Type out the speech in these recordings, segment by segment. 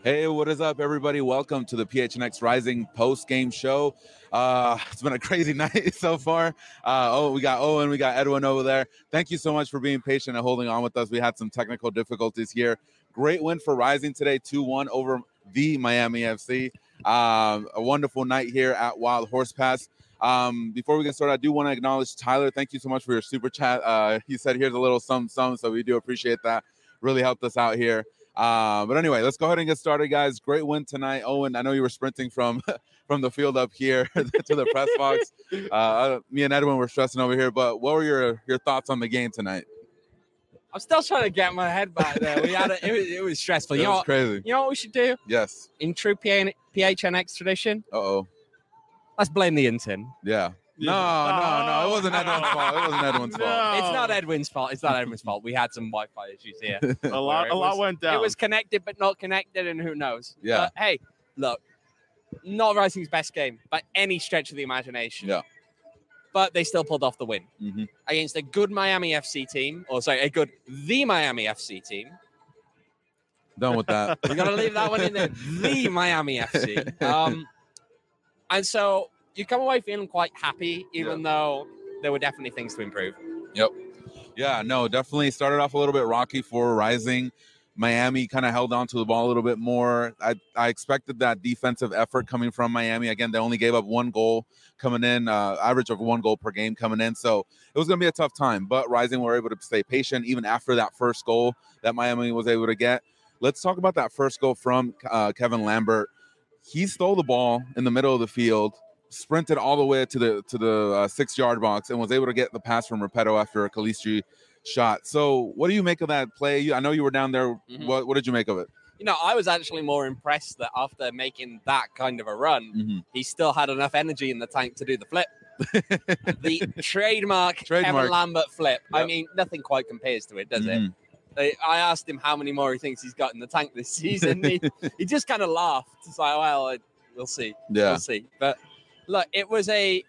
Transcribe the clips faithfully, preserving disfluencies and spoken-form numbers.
Hey, what is up, everybody? Welcome to the P H N X Rising post-game show. Uh, it's been a crazy night so far. Uh, oh, we got Owen, we got Edwin over there. Thank you so much for being patient and holding on with us. We had some technical difficulties here. Great win for Rising today, two one over the Miami F C. Um, a wonderful night here at Wild Horse Pass. Um, before we get started, I do want to acknowledge Tyler. Thank you so much for your super chat. Uh, he said, here's a little some, some, so we do appreciate that. Really helped us out here. Uh, but anyway, let's go ahead and get started, guys. Great win tonight. Owen, I know you were sprinting from from the field up here to the press box. Uh, me and Edwin were stressing over here, but what were your, your thoughts on the game tonight? I'm still trying to get my head back there. We had a, it, was, it was stressful. It you know was what, crazy. You know what we should do? Yes. In true P H N X tradition, Uh-oh. let's blame the intern. Yeah. No, no, no. It wasn't Edwin's fault. It wasn't Edwin's No. fault. It's not Edwin's fault. It's not Edwin's fault. We had some Wi-Fi issues here. A lot, It a lot was- went down. It was connected but not connected, and who knows? Yeah. But, hey, look, not Rising's best game by any stretch of the imagination. Yeah. But they still pulled off the win Mm-hmm. against a good Miami F C team, or sorry, a good the Miami F C team. Done with that. We got to leave that one in there. The Miami F C. Um, and so you come away feeling quite happy, even though there were definitely things to improve. Yeah, no, definitely started off a little bit rocky for Rising. Miami kind of held on to the ball a little bit more. I, I expected that defensive effort coming from Miami. Again, they only gave up one goal coming in, uh, average of one goal per game coming in. So it was going to be a tough time. But Rising were able to stay patient even after that first goal that Miami was able to get. Let's talk about that first goal from uh, Kevin Lambert. He stole the ball in the middle of the field, sprinted all the way to the to the uh, six-yard box, and was able to get the pass from Repetto after a Calistri shot. So what do you make of that play? You, I know you were down there. Mhm. What, what did you make of it? You know, I was actually more impressed that after making that kind of a run, Mm-hmm. he still had enough energy in the tank to do the flip. the trademark, Trademark. Kevin Lambert flip. I Yep. mean, nothing quite compares to it, does it? Mhm. I I asked him how many more he thinks he's got in the tank this season. he, he just kind of laughed. It's like, well, I- we'll see. Yeah. We'll see. But look, it was a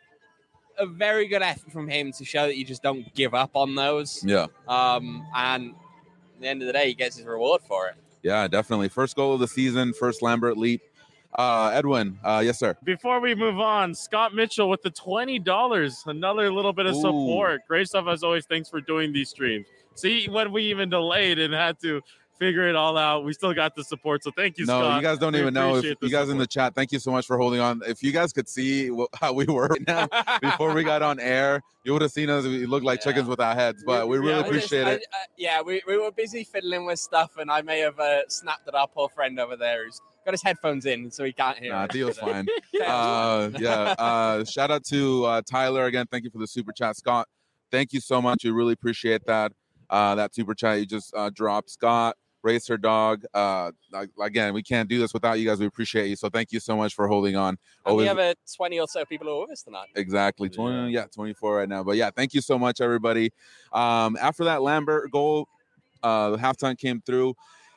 a very good effort from him to show that you just don't give up on those. Yeah. Um, and at the end of the day, he gets his reward for it. Yeah, definitely. First goal of the season, first Lambert leap. Uh, Edwin, uh, yes, sir. Before we move on, Scott Mitchell with the twenty dollars, another little bit of Ooh. support. Great stuff as always. Thanks for doing these streams. See, when we even delayed and had to figure it all out, we still got the support. So thank you, No, Scott. you guys don't We even know. If appreciate the you guys in the support. chat, thank you so much for holding on. If you guys could see wh- how we were right now before we got on air, you would have seen us. We looked like Yeah. chickens without heads, but we really Yeah, I just- appreciate I- it. I- yeah, we, we were busy fiddling with stuff, and I may have uh, snapped at our poor friend over there who's got his headphones in, so he can't hear Nah, us. Theo's But, uh, fine. Tails. Uh, yeah. Uh, shout out to uh, Tyler again. Thank you for the super chat, Scott. Thank you so much. We really appreciate that. Uh, that super chat you just uh, dropped, Scott. Racer Dog. Uh, like- again, we can't do this without you guys. We appreciate you. So thank you so much for holding on. And we Always- have a twenty or so people who are with us tonight. Exactly. twenty, yeah, twenty-four right now. But yeah, thank you so much, everybody. Um, after that Lambert goal, uh, the halftime came through.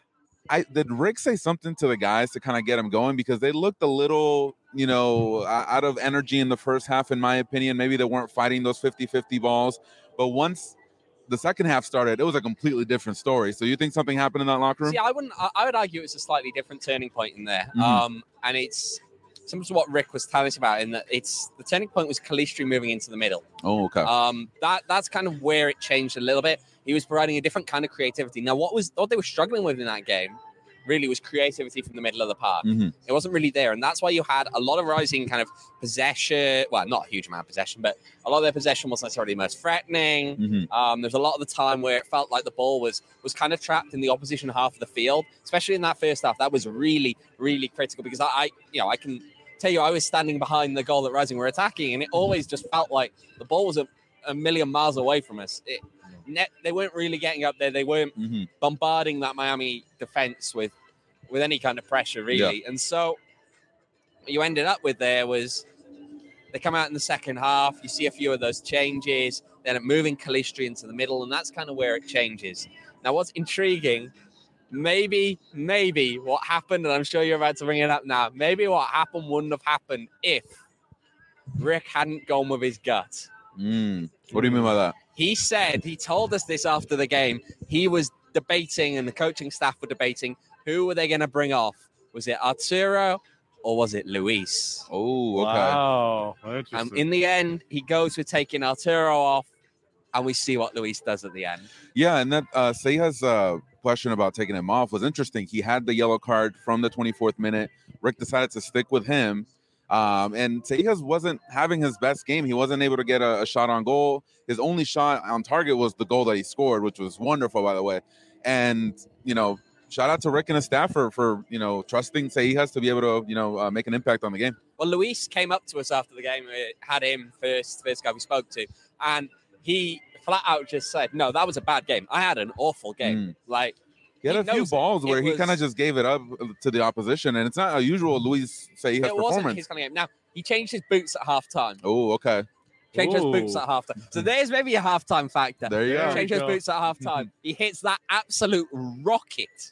I did Rick say something to the guys to kind of get them going because they looked a little, you know, uh, out of energy in the first half, in my opinion. Maybe they weren't fighting those fifty-fifty balls. But once the second half started, it was a completely different story. So you think something happened in that locker room? See, I wouldn't. I- I would argue it's a slightly different turning point in there. Mhm. Um, and it's similar to what Rick was telling us about. In that, it's the turning point was Calistri moving into the middle. Oh, okay. Um, that that's kind of where it changed a little bit. He was providing a different kind of creativity. Now, what was what they were struggling with in that game really was creativity from the middle of the park. Mhm. It wasn't really there, and that's why you had a lot of Rising kind of possession. Well, not a huge amount of possession, but a lot of their possession wasn't necessarily the most threatening. Mhm. Um, there's a lot of the time where it felt like the ball was was kind of trapped in the opposition half of the field, especially in that first half. That was really, really critical because I, I you know, I can tell you, I was standing behind the goal that Rising were attacking, and it always just felt like the ball was a, a million miles away from us. It, net, they weren't really getting up there. They weren't Mhm. bombarding that Miami defense with with any kind of pressure, really. And so what you ended up with there was they come out in the second half. You see a few of those changes. Then moving Calistri into the middle, and that's kind of where it changes. Now, what's intriguing, maybe, maybe what happened, and I'm sure you're about to bring it up now, maybe what happened wouldn't have happened if Rick hadn't gone with his gut. Mm. What do you mean by that? He said, he told us this after the game, he was debating and the coaching staff were debating who were they going to bring off. Was it Arturo or was it Luis? Oh, okay. Wow. And Interesting. in the end, he goes with taking Arturo off, and we see what Luis does at the end. Yeah, and that uh, Seija's uh, question about taking him off was interesting. He had the yellow card from the twenty-fourth minute. Rick decided to stick with him. Um, and Seijas wasn't having his best game. He wasn't able to get a, a shot on goal. His only shot on target was the goal that he scored, which was wonderful, by the way. And, you know, shout out to Rick and his staff for, for you know, trusting Seijas to be able to, you know, uh, make an impact on the game. Well, Luis came up to us after the game. We had him first, first guy we spoke to. And he flat out just said, no, that was a bad game. I had an awful game. Mm. Like, He had He a few knows it. balls where It he was- kind of just gave it up to the opposition, and it's not a usual Luis Seijas it wasn't performance. his kind of game. Now, he changed his boots at halftime. Oh, okay. Changed his boots Ooh. at halftime. So there's maybe a halftime factor. There you There go. we Change his go. boots at halftime. He hits that absolute rocket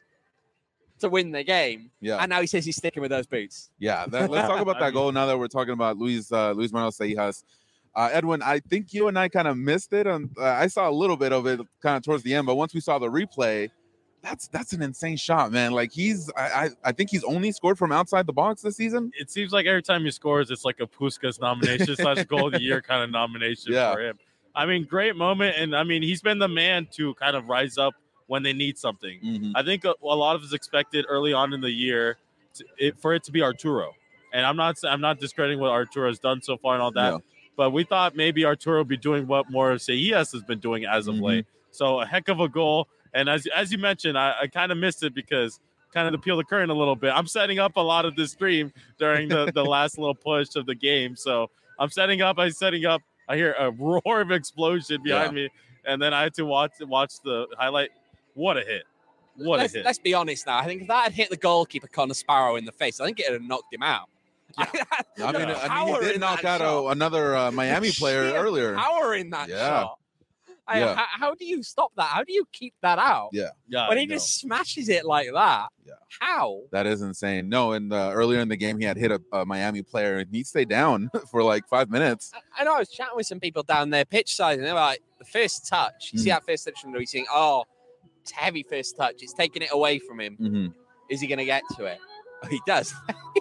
to win the game. Yeah. And now he says he's sticking with those boots. Yeah, that, let's talk about I that mean- goal now that we're talking about Luis uh, Luis Manuel Seijas. Uh, Edwin, I think you and I kind of missed it. And uh, I saw a little bit of it kind of towards the end, but once we saw the replay, that's that's an insane shot, man. Like he's, I I, I think he's only scored from outside the box this season. It seems like every time he scores, it's like a Puskas nomination slash goal of the year kind of nomination Yeah. for him. I mean, great moment. And I mean, he's been the man to kind of rise up when they need something. Mhm. I think a, a lot of us expected early on in the year to, it, for it to be Arturo. And I'm not I'm not discrediting what Arturo has done so far and all that, No. but we thought maybe Arturo would be doing what more Seijas has been doing as of Mhm. late. So a heck of a goal. And as as you mentioned, I, I kind of missed it because kind of to peel the curtain a little bit. I'm setting up a lot of this stream during the, the last little push of the game. So I'm setting up, I'm setting up. I hear a roar of explosion behind me. And then I had to watch watch the highlight. What a hit. What let's, a hit. let's be honest now. I think if that had hit the goalkeeper, Connor Sparrow, in the face, I think it would have knocked him out. I mean, Yeah. I mean, Power he did in knock that out shot. a, another uh, Miami player Sheer earlier. Power in that Yeah. shot. I- Yeah. how, how do you stop that? How do you keep that out? Yeah. yeah, When I he know. just smashes it like that. Yeah. How? That is insane. No, and uh, earlier in the game, he had hit a, a Miami player, and he stayed down for like five minutes. I, I know I was chatting with some people down there pitch side, and they were like, the first touch, you see Mm. that first touch from Luis, saying, oh, it's a heavy first touch. It's taking it away from him. Mm-hmm. Is he going to get to it? Oh, he does.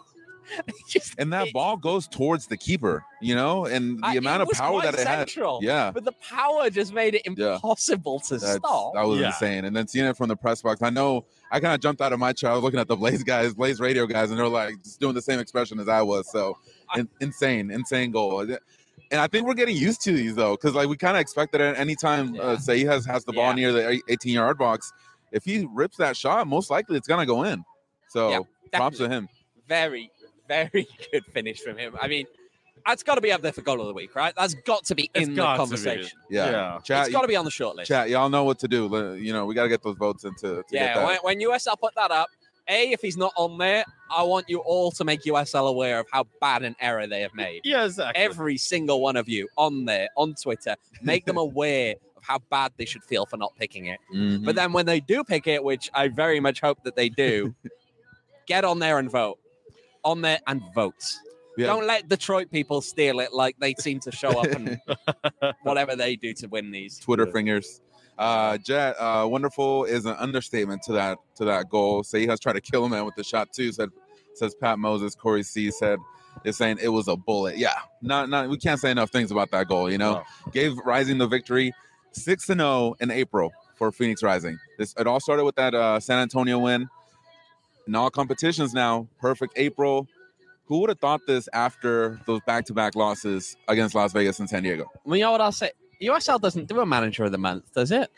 He just And that hits- ball goes towards the keeper, you know, and the Uh, it amount of was power quite that it had. central, Yeah. But the power just made it Yeah. impossible to That's, stop. that was Yeah. insane. And then seeing it from the press box, I know I kind of jumped out of my chair. I was looking at the Blaze guys, Blaze radio guys, and they're like just doing the same expression as I was. So in, insane, insane goal. And I think we're getting used to these though, because like we kind of expected it anytime uh, Yeah. say he has has the ball Yeah. near the eighteen yard box. If he rips that shot, most likely it's gonna go in. So Yeah, props to definitely. him. Very, very good finish from him. I mean, that's got to be up there for goal of the week, right? That's got to be It's in the got to be. conversation. Yeah. Yeah. Chat, It's got to be on the short list. chat, y'all know what to do. Le- You know, we got to get those votes into to get Yeah, that. when, when U S L put that up, A, if he's not on there, I want you all to make U S L aware of how bad an error they have made. Yeah, exactly. Every single one of you on there, on Twitter, make them aware of how bad they should feel for not picking it. Mhm. But then when they do pick it, which I very much hope that they do, get on there and vote. On there and vote. Yeah. Don't let Detroit people steal it like they seem to show up and whatever they do to win these. Twitter Yeah. fingers. Uh, Jet, uh, wonderful is an understatement to that to that goal. Say he has tried to kill a man with the shot too. Said says Pat Moses. Corey C said is saying it was a bullet. Yeah, not not we can't say enough things about that goal. You know, gave Rising the victory, six and zero in April for Phoenix Rising. This it all started with that uh, San Antonio win. In all competitions now, perfect April. Who would have thought this after those back-to-back losses against Las Vegas and San Diego? Well, you know what I'll say? U S L doesn't do a manager of the month, does it?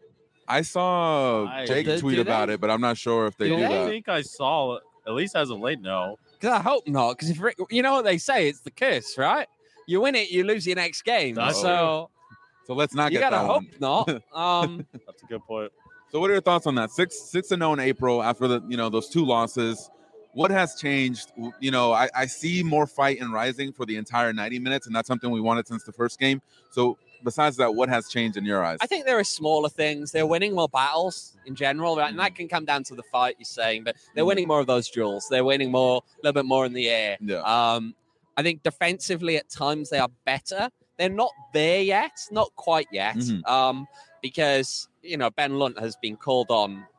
I saw I- Jake Do- tweet do about they? it, but I'm not sure if they Do do I they? that. think I saw, at least as of late, no. Because I hope not. Because if Rick, you know what they say, it's the curse, right? You win it, you lose your next game. That's so So let's not you get gotta that hope one. not. Um, That's a good point. So what are your thoughts on that? Six six and zero in April after the you know those two losses. What has changed? You know, I, I see more fight in Rising for the entire ninety minutes, and that's something we wanted since the first game. So besides that, what has changed in your eyes? I think there are smaller things. They're winning more battles in general, right? And that can come down to the fight you're saying, but they're winning more of those duels. They're winning more, a little bit more in the air. Yeah. Um, I think defensively at times they are better. They're not there yet, not quite yet, Mhm. um, because you know Ben Lunt has been called on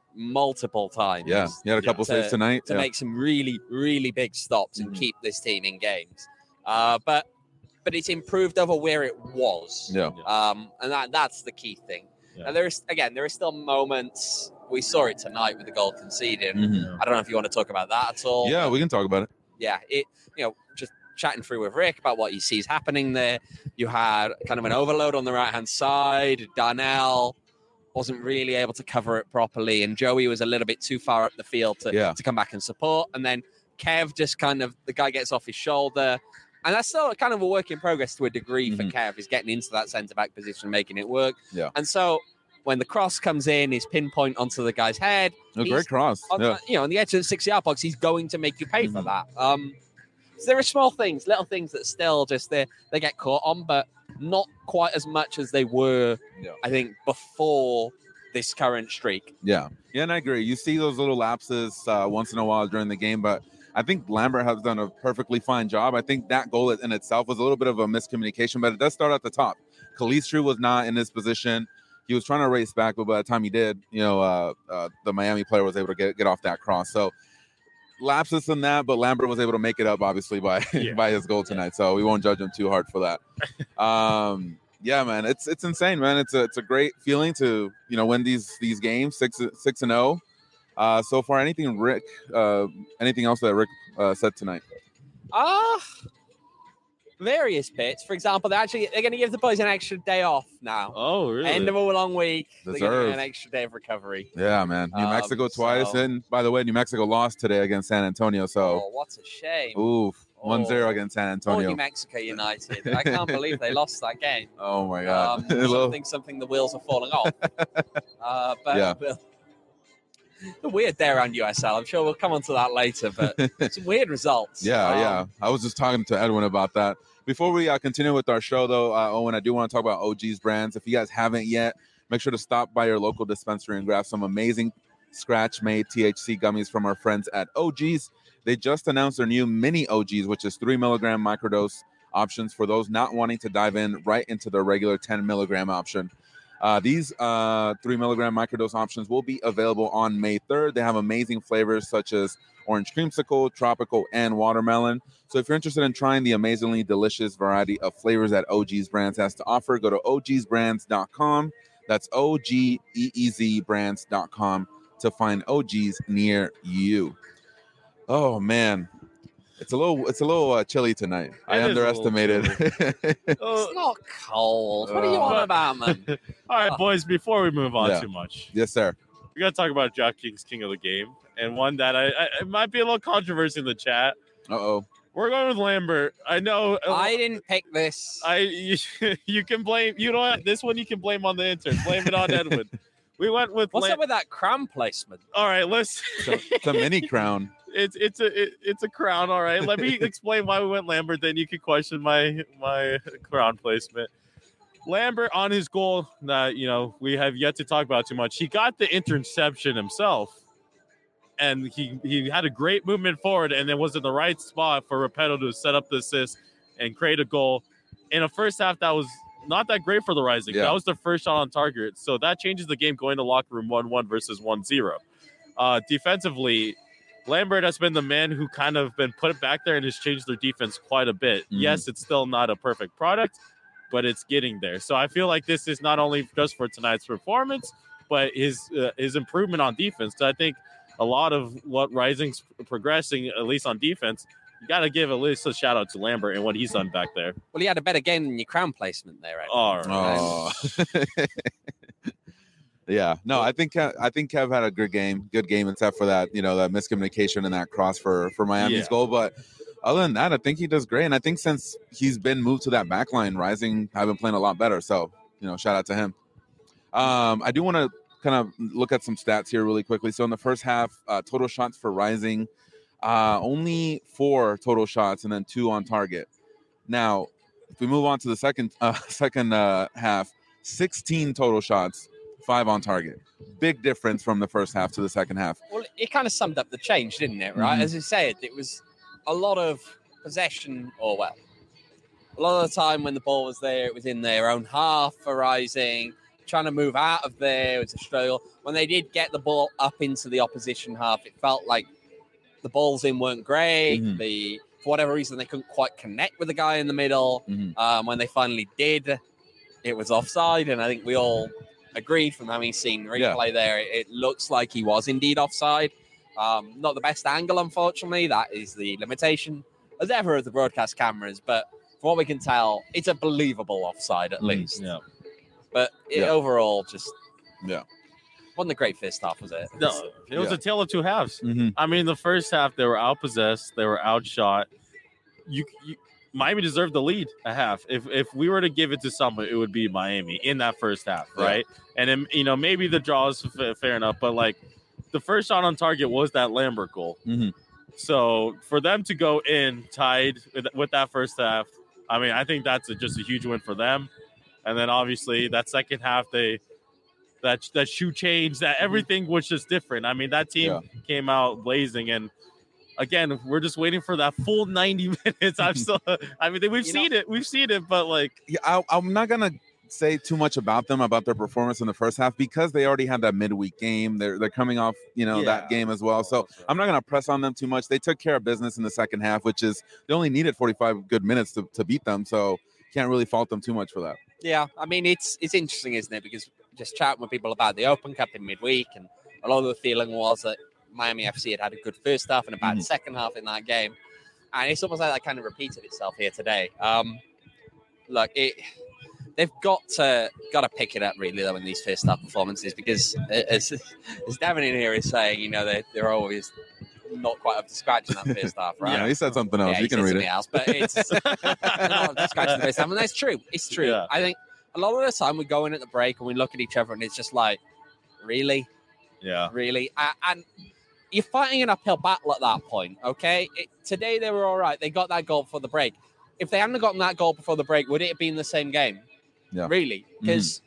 multiple times. Yeah, he had a couple to, saves tonight to yeah. make some really, really big stops and mm-hmm. keep this team in games. Uh, but but it's improved over where it was. Yeah. Um, and that that's the key thing. Yeah. And there is again, there are still moments. We saw it tonight with the goal conceded. Mm-hmm. I don't know if you want to talk about that at all. Yeah, we can talk about it. Yeah, it you know just chatting through with Rick about what he sees happening there. You had kind of an overload on the right hand side. Darnell wasn't really able to cover it properly, and Joey was a little bit too far up the field to, yeah. to come back and support. And then Kev just kind of, the guy gets off his shoulder. And that's still kind of a work in progress to a degree mm-hmm. for Kev. He's getting into that centre-back position, making it work. Yeah. And so when the cross comes in, his pinpoint onto the guy's head. A great cross. On, yeah. You know, on the edge of the six-yard box, he's going to make you pay mm-hmm. for that. Um, so there are small things, little things that still just, they, they get caught on, but not quite as much as they were, yeah. I think, before this current streak. Yeah. Yeah, and I agree. You see those little lapses uh, once in a while during the game, but I think Lambert has done a perfectly fine job. I think that goal in itself was a little bit of a miscommunication, but it does start at the top. Calistri was not in his position. He was trying to race back, but by the time he did, you know, uh, uh, the Miami player was able to get, get off that cross. So lapses in that, but Lambert was able to make it up, obviously, by yeah. by his goal tonight. So we won't judge him too hard for that. um, yeah, man, it's it's insane, man. It's a it's a great feeling to you know win these these games six six and zero. Uh, so far, anything Rick, uh, anything else that Rick uh, said tonight? Ah. Uh, Various bits. For example, they're actually they're going to give the boys an extra day off now. Oh, really? End of a long week. Deserved. They're going to get an extra day of recovery. Yeah, man. New um, Mexico twice, so... and by the way, New Mexico lost today against San Antonio. So, oh, what a shame. Oof, one zero oh. against San Antonio. Oh, New Mexico United. I can't believe they lost that game. Oh my God. Um, something, something. The wheels are falling off. uh, but yeah. We'll... The weird day around U S L. I'm sure we'll come on to that later, but some weird results. Yeah, um, yeah. I was just talking to Edwin about that. Before we uh, continue with our show, though, uh, Owen, I do want to talk about O G's brands. If you guys haven't yet, make sure to stop by your local dispensary and grab some amazing scratch-made T H C gummies from our friends at O G's. They just announced their new mini O G's, which is three milligram microdose options for those not wanting to dive in right into their regular ten milligram option. Uh, these uh, three milligram microdose options will be available on May third. They have amazing flavors such as orange creamsicle, tropical, and watermelon. So if you're interested in trying the amazingly delicious variety of flavors that O G's Brands has to offer, go to O Gs brands dot com. That's O G E E Z brands dot com to find O G's near you. Oh, man. It's a little, it's a little uh, chilly tonight. It I underestimated. It's not cold. What are you on uh, about, man? All right, boys. Before we move on yeah. too much, yes, sir. We got to talk about DraftKings King of the Game, and one that I, I it might be a little controversy in the chat. Uh oh. We're going with Lambert. I know. I didn't pick this. I you, you can blame. You know what? This one you can blame on the intern. Blame it on Edwin. We went with. What's Lam- up with that crown placement? All right, let's. It's a, it's a mini crown. It's it's a it, it's a crown. All right. Let me explain why we went Lambert. Then you can question my my crown placement. Lambert on his goal that you know we have yet to talk about too much. He got the interception himself, and he he had a great movement forward, and then was in the right spot for Repetto to set up the assist and create a goal. In a first half, that was not that great for the Rising. Yeah. That was the first shot on target, so that changes the game going to locker room one one versus one zero. Uh, defensively, Lambert has been the man who kind of been put back there and has changed their defense quite a bit. Mm-hmm. Yes, it's still not a perfect product, but it's getting there. So I feel like this is not only just for tonight's performance, but his uh, his improvement on defense. So I think a lot of what Rising's progressing, at least on defense, you got to give at least a shout out to Lambert and what he's done back there. Well, he had a better game than your crown placement there, right? All right. Oh. Yeah, no, I think I think Kev had a good game, good game, except for that, you know, that miscommunication and that cross for for Miami's yeah. goal. But other than that, I think he does great. And I think since he's been moved to that back line, Rising have been playing a lot better. So, you know, shout out to him. Um, I do want to kind of look at some stats here really quickly. So in the first half, uh, total shots for Rising, uh, only four total shots and then two on target. Now, if we move on to the second uh, second uh, half, sixteen total shots. Five on target. Big difference from the first half to the second half. Well, it kind of summed up the change, didn't it? Right? Mm-hmm. As you said, it was a lot of possession, or well, a lot of the time when the ball was there, it was in their own half for Rising. trying to move out of there. It was a struggle. When they did get the ball up into the opposition half, it felt like the balls in weren't great. Mhm. The for whatever reason, they couldn't quite connect with the guy in the middle. Mhm. Um, when they finally did, it was offside, and I think we all agreed from having seen replay Yeah. there, it, it looks like he was indeed offside. Um, not the best angle, unfortunately. That is the limitation, as ever, of the broadcast cameras. But from what we can tell, it's a believable offside at Mhm. least. Yeah. But it, Yeah. overall, just Yeah. wasn't a great first half, was it? No, it was Yeah. a tale of two halves. Mhm. I mean, the first half they were outpossessed, they were outshot. You, you Miami deserved the lead a half. If if we were to give it to someone, it would be Miami in that first half, Yeah. right? And then, you know, maybe the draw is f- fair enough, but like the first shot on target was that Lambert goal. Mhm. So for them to go in tied with, with that first half, I mean, I think that's a, just a huge win for them. And then obviously that second half, they that that shoe change, that everything was just different. I mean, that team Yeah. came out blazing, and again, we're just waiting for that full ninety minutes. I'm still, I mean, we've You seen it, we've seen it, but like, Yeah, I, I'm not gonna say too much about them about their performance in the first half because they already had that midweek game. They're they're coming off, you know, Yeah. that game as well. So That's right. I'm not gonna press on them too much. They took care of business in the second half, which is they only needed forty-five good minutes to, to beat them. So can't really fault them too much for that. Yeah, I mean, it's it's interesting, isn't it? Because just chatting with people about the Open Cup in midweek, and a lot of the feeling was that Miami F C had had a good first half and a bad Mhm. second half in that game. And it's almost like that kind of repeated itself here today. Um, look, it they've got to got to pick it up really though in these first half performances, because as as Devin in here is saying, you know, they they're always not quite up to scratch in that first half, right? Yeah, he said something else. Yeah, you he can said read something it. else, but it's they're not up to scratch in the first half, and that's true. It's true. Yeah. I think a lot of the time we go in at the break and we look at each other and it's just like, really, yeah, really, A- and you're fighting an uphill battle at that point. Okay, it, today they were all right. They got that goal before the break. If they hadn't gotten that goal before the break, would it have been the same game? Yeah. Really, because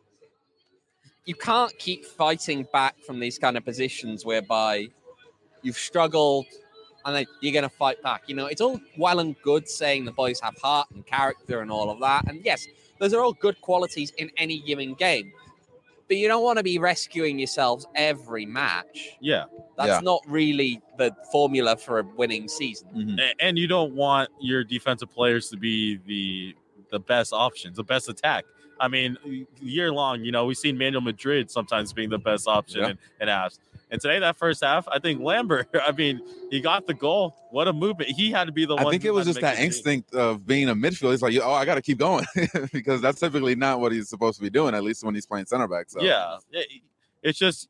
you can't keep fighting back from these kind of positions whereby you've struggled and then you're going to fight back. You know, it's all well and good saying the boys have heart and character and all of that. And yes, those are all good qualities in any given game. But you don't want to be rescuing yourselves every match. yeah. That's Yeah. not really the formula for a winning season. Mhm. A- And you don't want your defensive players to be the the best options, the best attack. I mean, year long, you know, we've seen Manuel Madrid sometimes being the best option Yeah. in, in halves. And today, that first half, I think Lambert, I mean, he got the goal. What a movement. He had to be the I one. think who it was had just to make that the instinct of being a midfield. He's like, oh, I got to keep going because that's typically not what he's supposed to be doing, at least when he's playing center back. So Yeah. It- It's just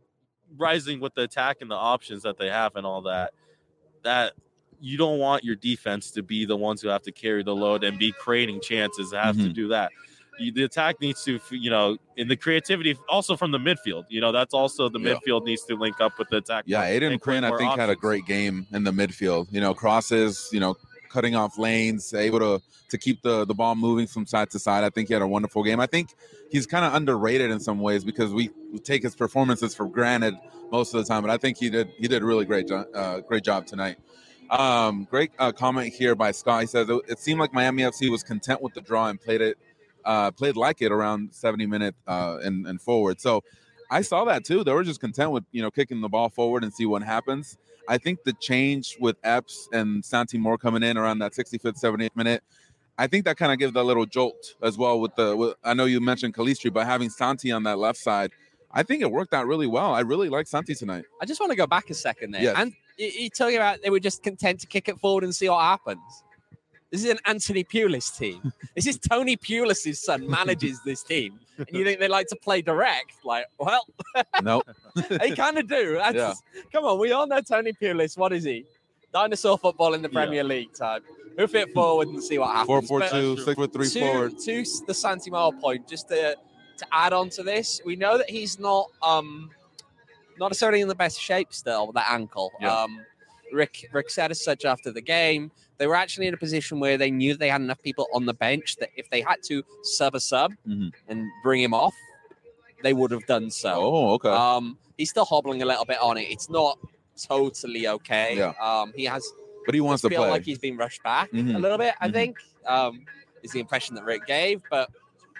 rising with the attack and the options that they have and all that. That you don't want your defense to be the ones who have to carry the load and be creating chances, have to Mhm. do that. You, the attack needs to, you know, in the creativity also from the midfield. You know, that's also the Yeah. midfield needs to link up with the attack. Yeah, Aiden and create Quinn, I more think, had a options. great game in the midfield. You know, crosses, you know, cutting off lanes, able to to keep the, the ball moving from side to side. I think he had a wonderful game. I think he's kind of underrated in some ways because we, we take his performances for granted most of the time. But I think he did he did a really great job, uh, great job tonight. Um, great uh, comment here by Scott. He says it, it seemed like Miami F C was content with the draw and played it uh, played like it around seventy minute uh, and, and forward. So I saw that too. They were just content with, you know, kicking the ball forward and see what happens. I think the change with Epps and Santi Moore coming in around that sixty-fifth, seventieth minute, I think that kind of gives that little jolt as well with the, with, I know you mentioned Calistri, but having Santi on that left side, I think it worked out really well. I really like Santi tonight. I just want to go back a second there. Yes. And you- you're talking about they were just content to kick it forward and see what happens. This is an Anthony Pulis team. This is Tony Pulis' son manages this team. And you think they like to play direct? Like, well, Nope. they kind of do. That's, Yeah. Come on, we all know Tony Pulis. What is he? Dinosaur football in the Yeah. Premier League type. Hoof it forward and see what happens. Four four But two, six foot three to, forward. to the Santimar point, just to to add on to this, we know that he's not um not necessarily in the best shape still with that ankle. Yeah. Um, Rick Rick said as such after the game. They were actually in a position where they knew they had enough people on the bench that if they had to sub a sub Mhm. and bring him off, they would have done so. Oh, okay. Um, he's still hobbling a little bit on it. It's not totally okay. Yeah. Um, he has but he wants to feel play. like he's been rushed back Mhm. a little bit. I Mhm. think um, is the impression that Rick gave. But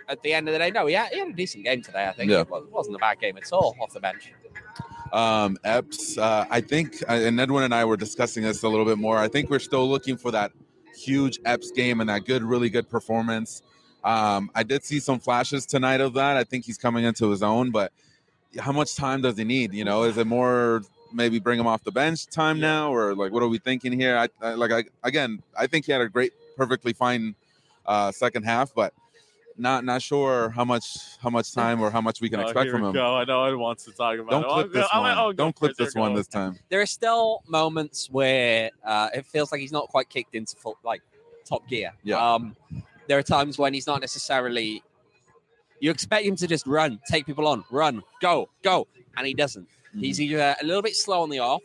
at the end of the day, no, he had, he had a decent game today, I think. Yeah. It wasn't a bad game at all off the bench. Um, Epps, uh, I think, uh, and Edwin and I were discussing this a little bit more. I think we're still looking for that huge Epps game and that good, really good performance. Um, I did see some flashes tonight of that. I think he's coming into his own, but how much time does he need? You know, is it more maybe bring him off the bench time Yeah. now, or like what are we thinking here? I, I like I again, I think he had a great, perfectly fine uh, second half, but not not sure how much how much time or how much we can Oh, expect here from we him. Go. I know I wants to talk about Don't it. clip I'll this go- I'll- one. I'll go Don't for clip it. Here this one goes. this time. There are still moments where uh, it feels like he's not quite kicked into full, like top gear. Yeah. Um, there are times when he's not necessarily. You expect him to just run, take people on, run, go, go, and he doesn't. Mm-hmm. He's either a little bit slow on the off,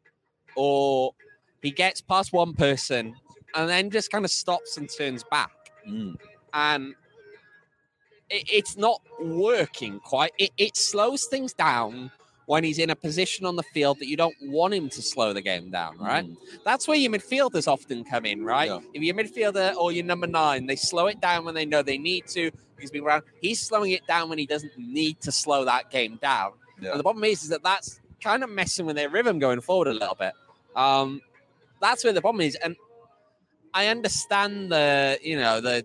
or he gets past one person and then just kind of stops and turns back. Mm. And it, it's not working quite. It, it slows things down when he's in a position on the field that you don't want him to slow the game down, right? Mm. That's where your midfielders often come in, right? Yeah. If your midfielder or your number nine, they slow it down when they know they need to. He's been around. He's slowing it down when he doesn't need to slow that game down. Yeah. And the problem is, is that that's kind of messing with their rhythm going forward a little bit. Um, that's where the problem is. And I understand the, you know, the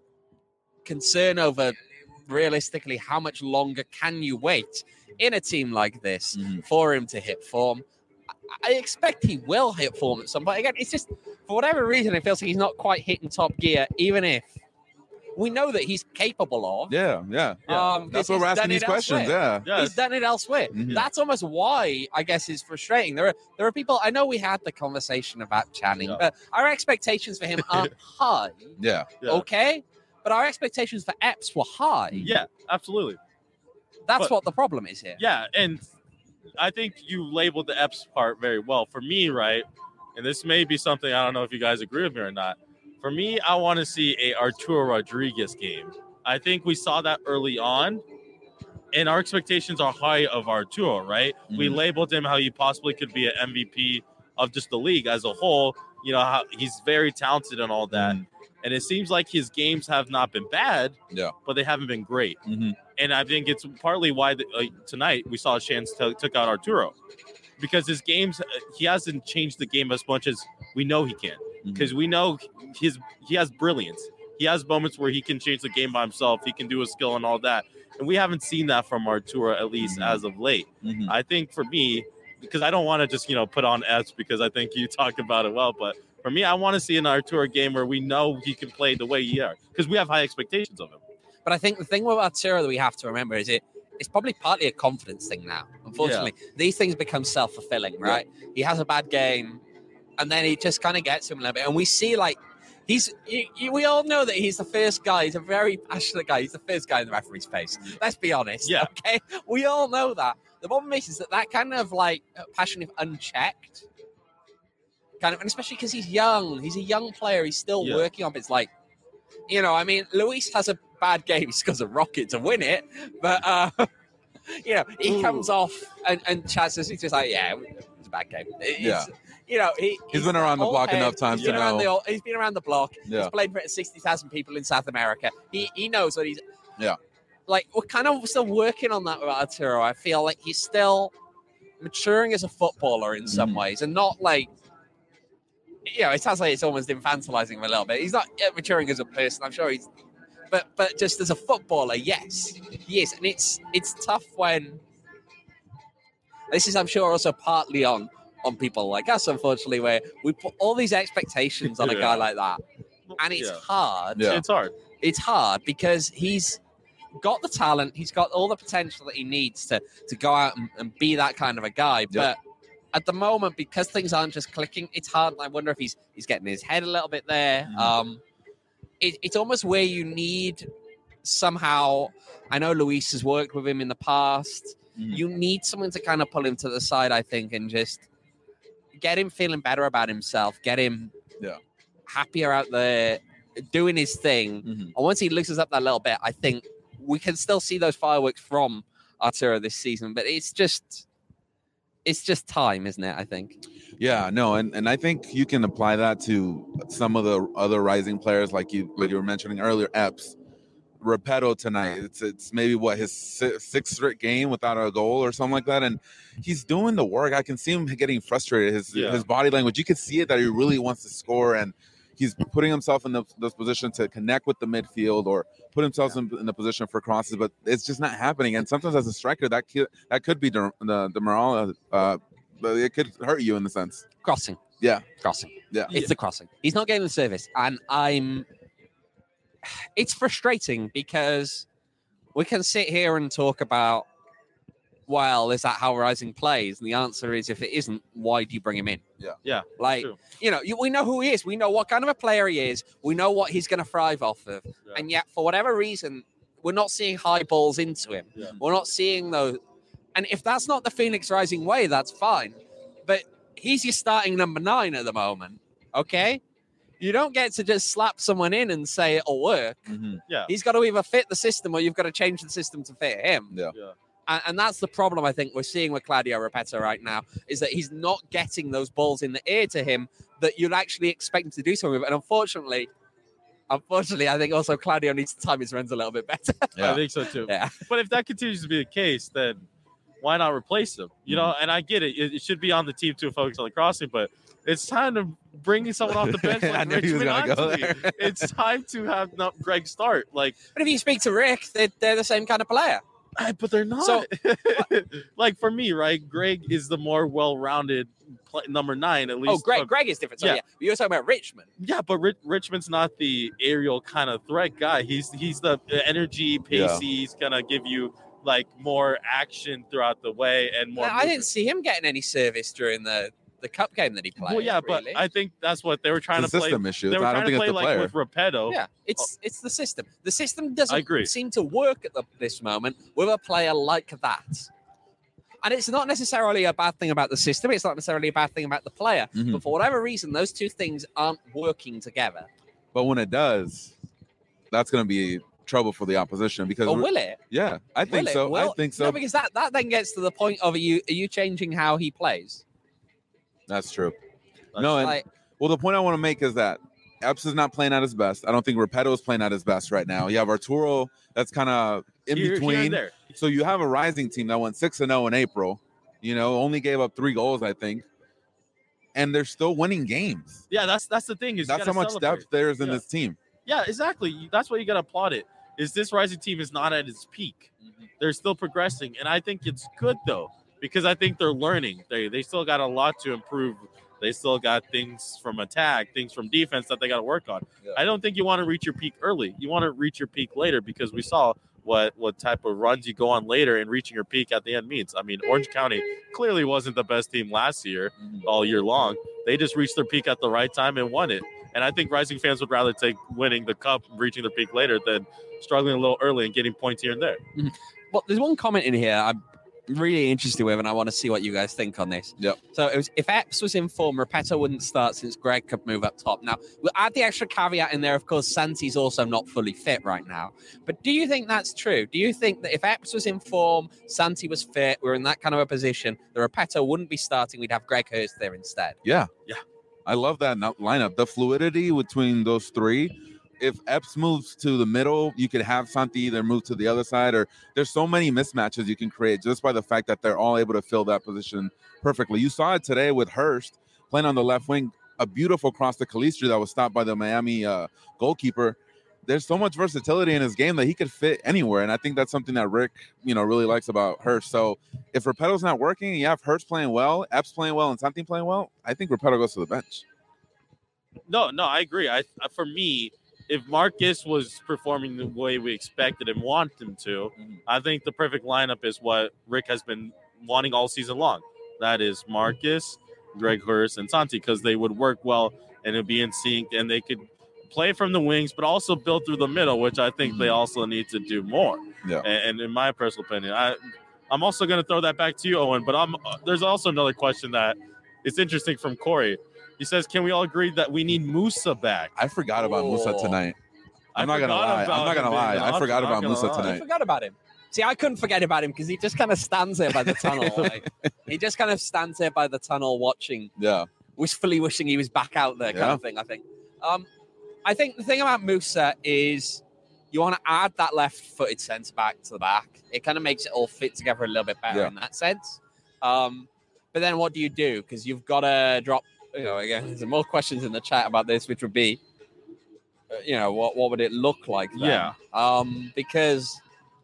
concern over realistically how much longer can you wait in a team like this Mhm. for him to hit form. I expect he will hit form at some point. Again, it's just for whatever reason it feels like he's not quite hitting top gear, even if we know that he's capable of. Yeah, yeah. Yeah. Um, That's because what we're he's asking done these it questions. elsewhere. Yeah. He's Yes. done it elsewhere. Mhm. That's almost why I guess it's frustrating. There are there are people. I know we had the conversation about Channing, Yeah. but our expectations for him aren't high. Yeah. Yeah. Okay, but our expectations for Epps were high. Yeah, absolutely. That's But- what the problem is here. Yeah, and I think you labeled the Epps part very well. For me, right, and this may be something I don't know if you guys agree with me or not. For me, I want to see a Arturo Rodriguez game. I think we saw that early on, and our expectations are high of Arturo, right? We Mhm. labeled him how he possibly could be an M V P of just the league as a whole. You know, how he's very talented and all that. Mhm. And it seems like his games have not been bad, Yeah. but they haven't been great. Mhm. And I think it's partly why the, uh, tonight we saw Shans t- took out Arturo, because his games, uh, he hasn't changed the game as much as we know he can. Because we know his he has brilliance. He has moments where he can change the game by himself. He can do a skill and all that. And we haven't seen that from Arturo, at least Mhm. as of late. Mhm. I think for me, because I don't want to just, you know, put on S because I think you talked about it well, but for me, I want to see an Arturo game where we know he can play the way he is, because we have high expectations of him. But I think the thing with Arturo that we have to remember is it it's probably partly a confidence thing now. Unfortunately, these things become self fulfilling, right? He has a bad game, and then he just kind of gets him a little bit, and we see like. He's. You, you, we all know that he's the first guy. He's a very passionate guy. He's the first guy in the referee's face. Let's be honest. Yeah. Okay. We all know that. The problem is, is that that kind of like passion, if unchecked, kind of, and especially because he's young. He's a young player. He's still Yeah. working on. It's like, you know, I mean, Luis has a bad game. He scores a rocket to win it, but uh, you know, he Ooh. comes off and and Chaz says he's just like, yeah, it was a bad game. It's, Yeah. You know, he, He's been around the old block head. enough times He's been to around the know. old, he's been around the block. Yeah. He's played for sixty thousand people in South America. He he knows what he's. Yeah. Like we're kind of still working on that with Arturo. I feel like he's still maturing as a footballer in some Mhm. ways, and not like. You know, it sounds like it's almost infantilizing him a little bit. He's not yet maturing as a person. I'm sure he's, but but just as a footballer, yes, he is, and it's it's tough when. This is, I'm sure, also partly on on people like us, unfortunately, where we put all these expectations on a Yeah. guy like that, and it's Yeah. hard. Yeah. It's hard. It's hard because he's got the talent, he's got all the potential that he needs to to go out and, and be that kind of a guy, but. At the moment, because things aren't just clicking, it's hard. I wonder if he's he's getting his head a little bit there. Mhm. Um, it, it's almost where you need somehow. I know Luis has worked with him in the past. Mhm. You need someone to kind of pull him to the side, I think, and just get him feeling better about himself. Get him Yeah. happier out there, doing his thing. Mhm. And once he loosens up that little bit, I think we can still see those fireworks from Arturo this season. But it's just. It's just time, isn't it? I think. Yeah, no, and, and I think you can apply that to some of the other rising players, like you like you were mentioning earlier, Epps. Repetto tonight. It's it's maybe what his sixth straight game without a goal or something like that, and he's doing the work. I can see him getting frustrated. His Yeah. his body language, you can see it that he really wants to score, and he's putting himself in the, this position to connect with the midfield or put himself yeah. in, in the position for crosses, but it's just not happening. And sometimes as a striker, that could, that could be the the, the morale, uh, but it could hurt you in the sense. Crossing. Yeah. Crossing. Yeah. It's yeah. the crossing. He's not getting the service. And I'm, it's frustrating because we can sit here and talk about, well, is that how Rising plays? And the answer is, if it isn't, why do you bring him in? Yeah. Yeah. Like, true. you know, you, we know who he is. We know what kind of a player he is. We know what he's going to thrive off of. Yeah. And yet, for whatever reason, we're not seeing high balls into him. Yeah. We're not seeing those. And if that's not the Phoenix Rising way, that's fine. But he's your starting number nine at the moment. Okay? You don't get to just slap someone in and say it'll work. Mm-hmm. Yeah. He's got to either fit the system or you've got to change the system to fit him. Yeah. yeah. And, and that's the problem I think we're seeing with Claudio Repetto right now, is that he's not getting those balls in the ear to him that you'd actually expect him to do something with. And unfortunately, unfortunately, I think also Claudio needs to time his runs a little bit better. Yeah. I think so too. Yeah. But if that continues to be the case, then why not replace him? You know, and I get it. It, it should be on the team to focus on the crossing, but it's time to bring someone off the bench like Richmond Anthony. It's time to have not Greg start. Like, but if you speak to Rick, they're, they're the same kind of player. But they're not. So, like for me, right? Greg is the more well-rounded play, number nine, at least. Oh, Greg, Greg is different. So, yeah. yeah. You were talking about Richmond. Yeah, but Rich, Richmond's not the aerial kind of threat guy. He's he's the energy, pacey. Yeah. He's gonna give you like more action throughout the way and more. Yeah, I didn't see him getting any service during the. The cup game that he played. Well, yeah, really. but I think that's what they were trying it's to a play. System issue. They were I trying don't to think play it's the like player. with Repetto. Yeah, it's it's the system. The system I doesn't agree. seem to work at the, this moment with a player like that. And it's not necessarily a bad thing about the system. It's not necessarily a bad thing about the player. Mm-hmm. But for whatever reason, those two things aren't working together. But when it does, that's going to be trouble for the opposition because. Or will it? Yeah, I think will so. Will, I think so. No, because that, that then gets to the point of are you are you changing how he plays? That's true. That's no, and, like, well, the point I want to make is that Epps is not playing at his best. I don't think Repetto is playing at his best right now. You have Arturo that's kind of in here, between. Here and there. So you have a Rising team that went six and zero in April. You know, only gave up three goals, I think, and they're still winning games. Yeah, that's that's the thing. Is that's how much celebrate. depth there is in yeah. this team. Yeah, exactly. That's what you got to applaud it. Is this Rising team is not at its peak? Mm-hmm. They're still progressing, and I think it's good though because I think they're learning. They they still got a lot to improve. They still got things from attack, things from defense that they got to work on. Yeah. I don't think you want to reach your peak early. You want to reach your peak later because we saw what what type of runs you go on later and reaching your peak at the end means. I mean, Orange County clearly wasn't the best team last year, mm-hmm. all year long. They just reached their peak at the right time and won it. And I think Rising fans would rather take winning the cup, reaching their peak later than struggling a little early and getting points here and there. Mm-hmm. Well, there's one comment in here I'm really interested with, and I want to see what you guys think on this. Yep. So it was, if Epps was in form, Repetto wouldn't start since Greg could move up top. Now, we'll add the extra caveat in there. Of course, Santi's also not fully fit right now. But do you think that's true? Do you think that if Epps was in form, Santi was fit, we we're in that kind of a position, the Repetto wouldn't be starting, we'd have Greg Hurst there instead? Yeah. Yeah. I love that lineup. The fluidity between those three. If Epps moves to the middle, you could have Santi either move to the other side, or there's so many mismatches you can create just by the fact that they're all able to fill that position perfectly. You saw it today with Hurst playing on the left wing, a beautiful cross to Calistri that was stopped by the Miami uh, goalkeeper. There's so much versatility in his game that he could fit anywhere, and I think that's something that Rick, you know, really likes about Hurst. So if Repetto's not working, and you have Hurst playing well, Epps playing well, and Santi playing well, I think Repetto goes to the bench. No, no, I agree. I for me. If Marcus was performing the way we expected and want him to, mm-hmm. I think the perfect lineup is what Rick has been wanting all season long. That is Marcus, Greg Hurst, and Santi, because they would work well and it would be in sync, and they could play from the wings, but also build through the middle, which I think mm-hmm. they also need to do more. Yeah. And, and in my personal opinion, I, I'm also going to throw that back to you, Owen, but I'm there's also another question that is interesting from Corey. He says, can we all agree that we need Musa back? I forgot about oh. Musa tonight. I'm I not going to lie. I'm not going to lie. I forgot about Musa lie. tonight. I forgot about him. See, I couldn't forget about him because he just kind of stands there by the tunnel. Like, he just kind of stands there by the tunnel watching. Yeah. Wishfully wishing he was back out there kind yeah. of thing, I think. Um, I think the thing about Musa is you want to add that left-footed centre back to the back. It kind of makes it all fit together a little bit better Yeah. in that sense. Um, but then what do you do? Because you've got to drop. You know, again, there's more questions in the chat about this, which would be, uh, you know, what what would it look like then? Yeah. Um, because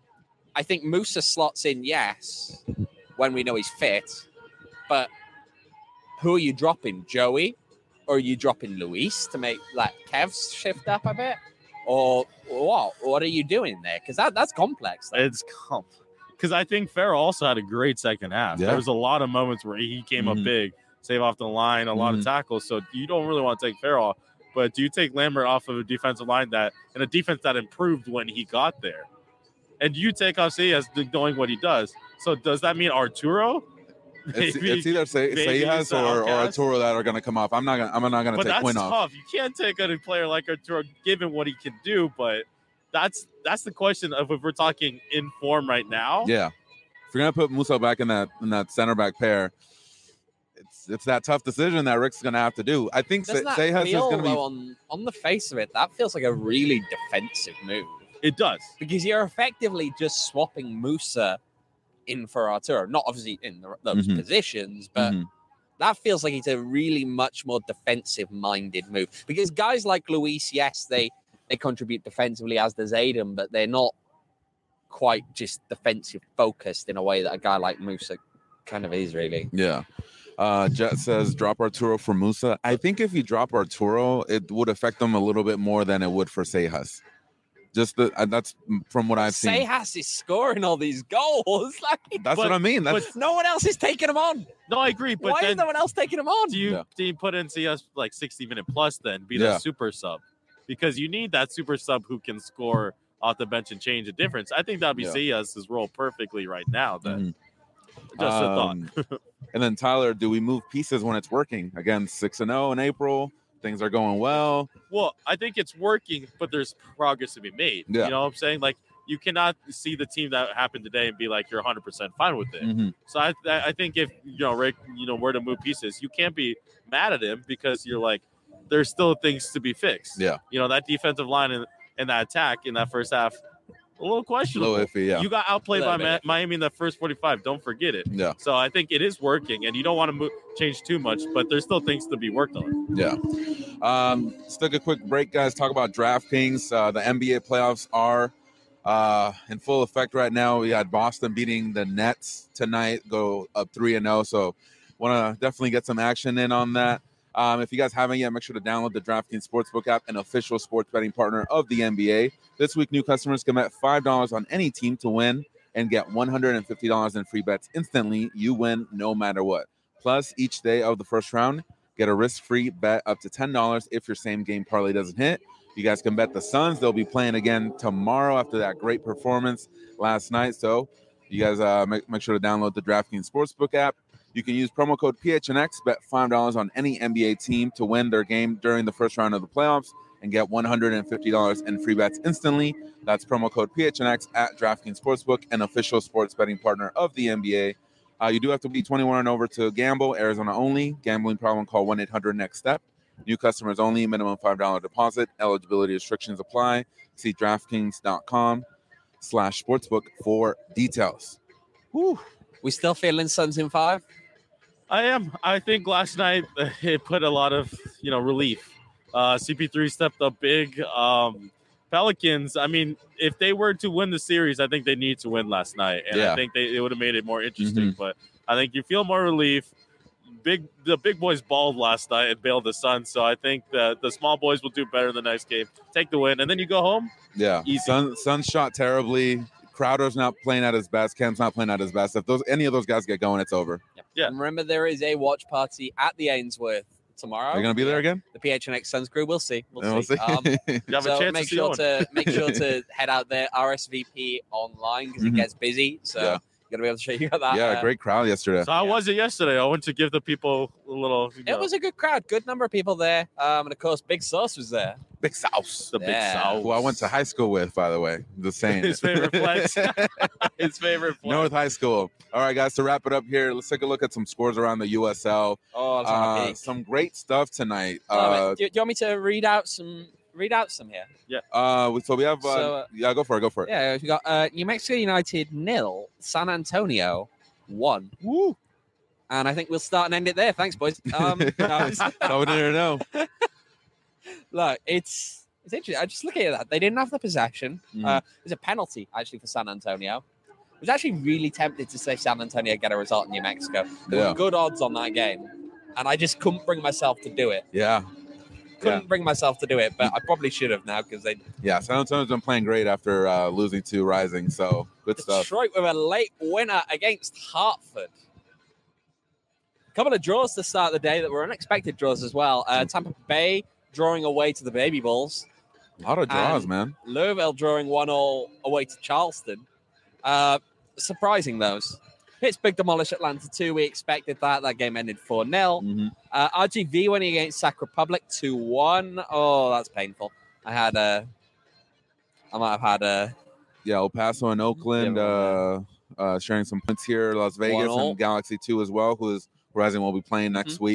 I think Musa slots in, yes, when we know he's fit, but who are you dropping, Joey, or are you dropping Luis to make like Kev shift up a bit, or what? What are you doing there? Because that that's complex. Though. It's comp. Because I think Farrell also had a great second half. Yeah. There was a lot of moments where he came Mhm. up big, save off the line, a lot Mhm. of tackles. So you don't really want to take Farrell off. But do you take Lambert off of a defensive line that and a defense that improved when he got there? And do you take off Sayas knowing what he does? So does that mean Arturo? It's, Maybe- it's either say maybe Sayas he's the or, or outcast. Arturo that are going to come off. I'm not going. I'm not going to But take that's Quinn off. tough. You can't take a player like Arturo given what he can do. But that's that's the question of if we're talking in form right now. Yeah, if you're going to put Musa back in that in that center back pair, it's it's that tough decision that Rick's going to have to do. I think Say- Doesn't that Sayas is feel, going to be. though, on, on the face of it, that feels like a really defensive move. It does. Because you're effectively just swapping Musa in for Arturo. Not obviously in the, those Mhm. positions, but Mhm. that feels like it's a really much more defensive-minded move. Because guys like Luis, yes, they, they contribute defensively, as does Aiden, but they're not quite just defensive-focused in a way that a guy like Musa kind of is, really. Yeah. Uh, Jet says drop Arturo for Musa. I think if you drop Arturo, it would affect them a little bit more than it would for Sayas. Just the uh, that's from what I've seen. Sayas is scoring all these goals. Like, That's But- what I mean. That's but- no one else is taking them on. No, I agree. But Why is then no one else taking them on? do you Yeah. do you put in C S like sixty minute plus then be Yeah. the super sub? Because you need that super sub who can score off the bench and change a difference. I think that'd be Yeah. C S's role perfectly right now. Then Mhm. just a thought. Um, and then Tyler, do we move pieces when it's working? Again, six and zero in April. Things are going well. Well, I think it's working, but there's progress to be made. Yeah. You know what I'm saying? Like you cannot see the team that happened today and be like you're one hundred percent fine with it. Mhm. So I, I think if you know Rick, you know where to move pieces, you can't be mad at him because you're like, there's still things to be fixed. Yeah. You know that defensive line and, and that attack in that first half, a little A questionable. little iffy, yeah. You got outplayed by Little Ma- bit. Miami in the first forty-five. Don't forget it. Yeah. So I think it is working, and you don't want to move, change too much, but there's still things to be worked on. Yeah. Um, let's take a quick break, guys. Talk about DraftKings. Uh, the N B A playoffs are uh, in full effect right now. We got Boston beating the Nets tonight, go up three and zero. So, want to definitely get some action in on that. Um, if you guys haven't yet, make sure to download the DraftKings Sportsbook app, an official sports betting partner of the N B A. This week, new customers can bet five dollars on any team to win and get one hundred fifty dollars in free bets instantly. You win no matter what. Plus, each day of the first round, get a risk-free bet up to ten dollars if your same game parlay doesn't hit. You guys can bet the Suns. They'll be playing again tomorrow after that great performance last night. So you guys uh, make, make sure to download the DraftKings Sportsbook app. You can use promo code P H N X, bet five dollars on any N B A team to win their game during the first round of the playoffs and get one hundred fifty dollars in free bets instantly. That's promo code P H N X at DraftKings Sportsbook, an official sports betting partner of the N B A. Uh, you do have to be twenty-one and over to gamble. Arizona only. Gambling problem, call one eight hundred next step. New customers only. Minimum five dollars deposit. Eligibility restrictions apply. See DraftKings.com slash sportsbook for details. Whew. We still feeling Suns in five? I am. I think last night uh, it put a lot of you know relief. Uh, C P three stepped up big. Um, Pelicans. I mean, if they were to win the series, I think they need to win last night, and Yeah. I think they it would have made it more interesting. Mhm. But I think you feel more relief. Big the big boys balled last night and bailed the Suns, so I think the the small boys will do better the next game. Take the win, and then you go home. Yeah, Easy. Sun Sun shot terribly. Crowder's not playing at his best. Cam's not playing at his best. If those any of those guys get going, it's over. Yeah. And remember, there is a watch party at the Ainsworth tomorrow. Are you gonna be there again? The P H N X Suns crew. We'll see. We'll, Then see. Um, You have so a chance make to see sure Owen. to make sure to head out there. R S V P online because Mhm. it gets busy. So Yeah. you're gonna be able to show you that. yeah, uh, great crowd yesterday. So how Yeah. was it yesterday? I went to give the people a little. You know, It was a good crowd. Good number of people there. Um, and of course, Big Sauce was there. Big South. the big Yeah. South. Who I went to high school with, by the way. Just saying. His favorite flex. His favorite flex. North High School. All right, guys. To wrap it up here, let's take a look at some scores around the U S L. Oh, that's Uh, uh, some great stuff tonight. do, Uh, do you want me to read out some read out some here. Uh, so we have. Uh, So, uh, yeah, go for it. Go for it. Yeah, we got uh, New Mexico United nil, San Antonio one. Woo! And I think we'll start and end it there. Thanks, boys. Um, no, it's- I wouldn't know. look, it's it's interesting. I just look at that. They didn't have the possession. Mm. Uh, there's a penalty actually for San Antonio. I was actually really tempted to say San Antonio get a result in New Mexico. There Yeah. were good odds on that game, and I just couldn't bring myself to do it. Yeah, Couldn't bring myself to do it, but I probably should have now because they yeah. San Antonio's been playing great after uh, losing to Rising, so good stuff. Detroit with a late winner against Hartford. A couple of draws to start the day that were unexpected draws as well. Uh, Tampa Bay drawing away to the Baby Bulls. A lot of draws, And- man. Louisville drawing one all away to Charleston. Uh, surprising those. Pittsburgh demolished Atlanta two. We expected that. That game ended four nil. Mhm. Uh, R G V winning against Sac Republic two one. Oh, that's painful. I had a. I might have had a. Yeah, El Paso and Oakland Yeah, uh, uh, sharing some points here. Las Vegas One all. and Galaxy two as well, who is Rising will be playing next Mm-hmm. week.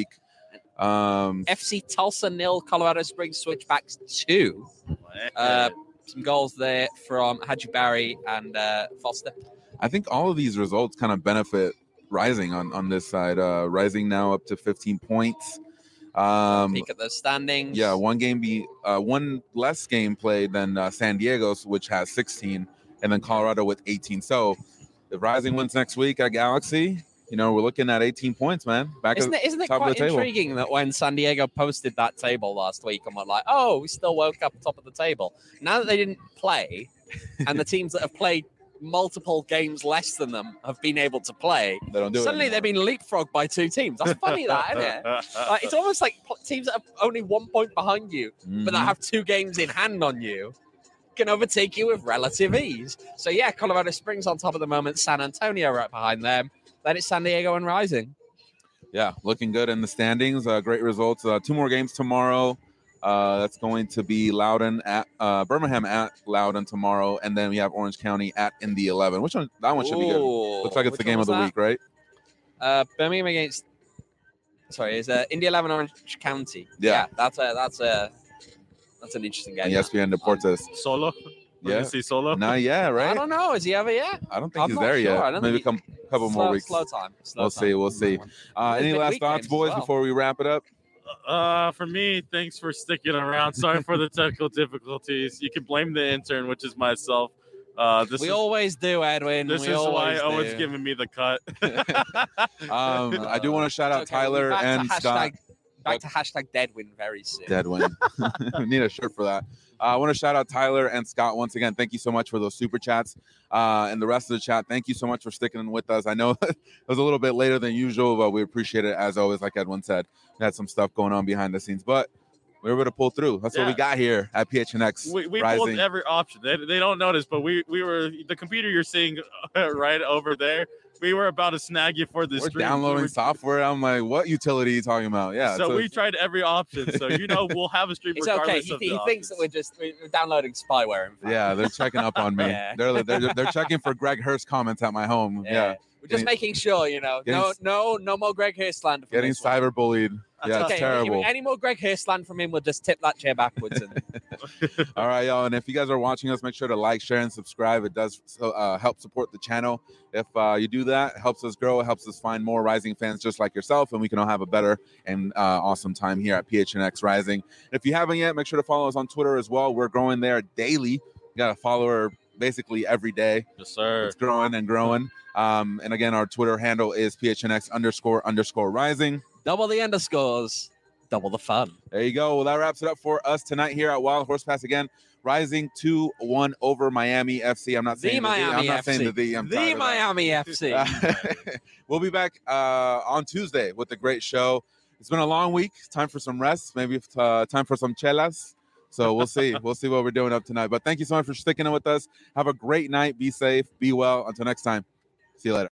Um, F C Tulsa nil. Colorado Springs Switchbacks two. Uh, some goals there from Haji Barry and uh, Foster. I think all of these results kind of benefit Rising on, on this side. Uh, Rising now up to fifteen points. Um, Peek at those standings. yeah, one game be uh, one less game played than uh, San Diego's, which has sixteen, and then Colorado with eighteen. So if Rising wins next week at Galaxy, you know we're looking at eighteen points, man. Back Isn't at it, isn't it top of quite the table. intriguing that when San Diego posted that table last week and were like, oh, we still woke up top of the table. Now that they didn't play and the teams that have played multiple games less than them have been able to play, They don't do suddenly it. they've been leapfrogged by two teams. That's funny, that, isn't it? Like, it's almost like pl- teams that have only one point behind you, but that Mhm. have two games in hand on you, can overtake you with relative ease. So, yeah, Colorado Springs on top of the moment, San Antonio right behind them. Then it's San Diego and Rising. Yeah, looking good in the standings. Uh, great results. Uh, two more games tomorrow. Uh, that's going to be Loudoun at uh, Birmingham at Loudoun tomorrow, and then we have Orange County at Indy eleven. Which one? That one should be good. Ooh, Looks like it's which the game one of the was week, right? that? Uh, Birmingham against. Sorry, is uh, Indy eleven Orange County? Yeah. that's a that's a that's an interesting game. And E S P N Deportes. Solo? We're Yeah. gonna see Solo? Not yet, I right? don't know. Is he ever yet? I don't think I'm he's not there sure. I yet. don't Maybe a think couple, couple slow, more weeks. Slow time. Slow We'll time. see. We'll see. Uh, There's any been last week thoughts, games as boys, well. before we wrap it up? Uh, for me, thanks for sticking around. Sorry for the technical difficulties. You can blame the intern, which is myself. Uh, this We is always do, Edwin. this we is always why Owen's do. giving me the cut. Um, I do want to shout out It's okay, we'll be Tyler back to and hashtag, Scott. Back to hashtag Deadwin very soon. Deadwin. We need a shirt for that. Uh, I want to shout out Tyler and Scott once again. Thank you so much for those super chats. Uh, and the rest of the chat, thank you so much for sticking with us. I know it was a little bit later than usual, but we appreciate it as always. Like Edwin said, we had some stuff going on behind the scenes, but we were able to pull through. That's what we Yeah. got here at P H N X we we Rising. pulled every option. They, they don't notice, but we we were the computer you're seeing right over there. We were about to snag you for this We're stream. downloading We were- software. I'm like, what utility are you talking about? Yeah. so so we tried every option. So you know we'll have a stream It's okay. regardless He, of he the thinks that options. we're just we're downloading spyware. In fact. yeah, they're checking up on me. Yeah. They're, they're they're checking for Greg Hurst comments at my home. Yeah. We're just Getting- making sure, you know, getting- no, no, no more Greg Hurst slander. from Getting this one. cyberbullied. Yeah, okay, it's terrible. Any more Greg Hurst slander from him, we'll just tip that chair backwards. And All right, y'all. And if you guys are watching us, make sure to like, share, and subscribe. It does so, uh, help support the channel. If uh, you do that, it helps us grow. It helps us find more Rising fans just like yourself, and we can all have a better and uh, awesome time here at P H N X Rising. If you haven't yet, make sure to follow us on Twitter as well. We're growing there daily. We got a follower basically every day. Yes, sir. It's growing and growing. Um, and again, our Twitter handle is P H N X underscore underscore Rising. double the underscores, double the fun. There you go. Well, that wraps it up for us tonight here at Wild Horse Pass again. Rising two one over Miami F C. I'm not The saying the, Miami I'm not F saying C. the the. I'm tired The of that. Miami F C. Uh, we'll be back uh, on Tuesday with a great show. It's been a long week. Time for some rest. Maybe uh, time for some chelas. So we'll see. We'll see what we're doing up tonight. But thank you so much for sticking in with us. Have a great night. Be safe. Be well. Until next time. See you later.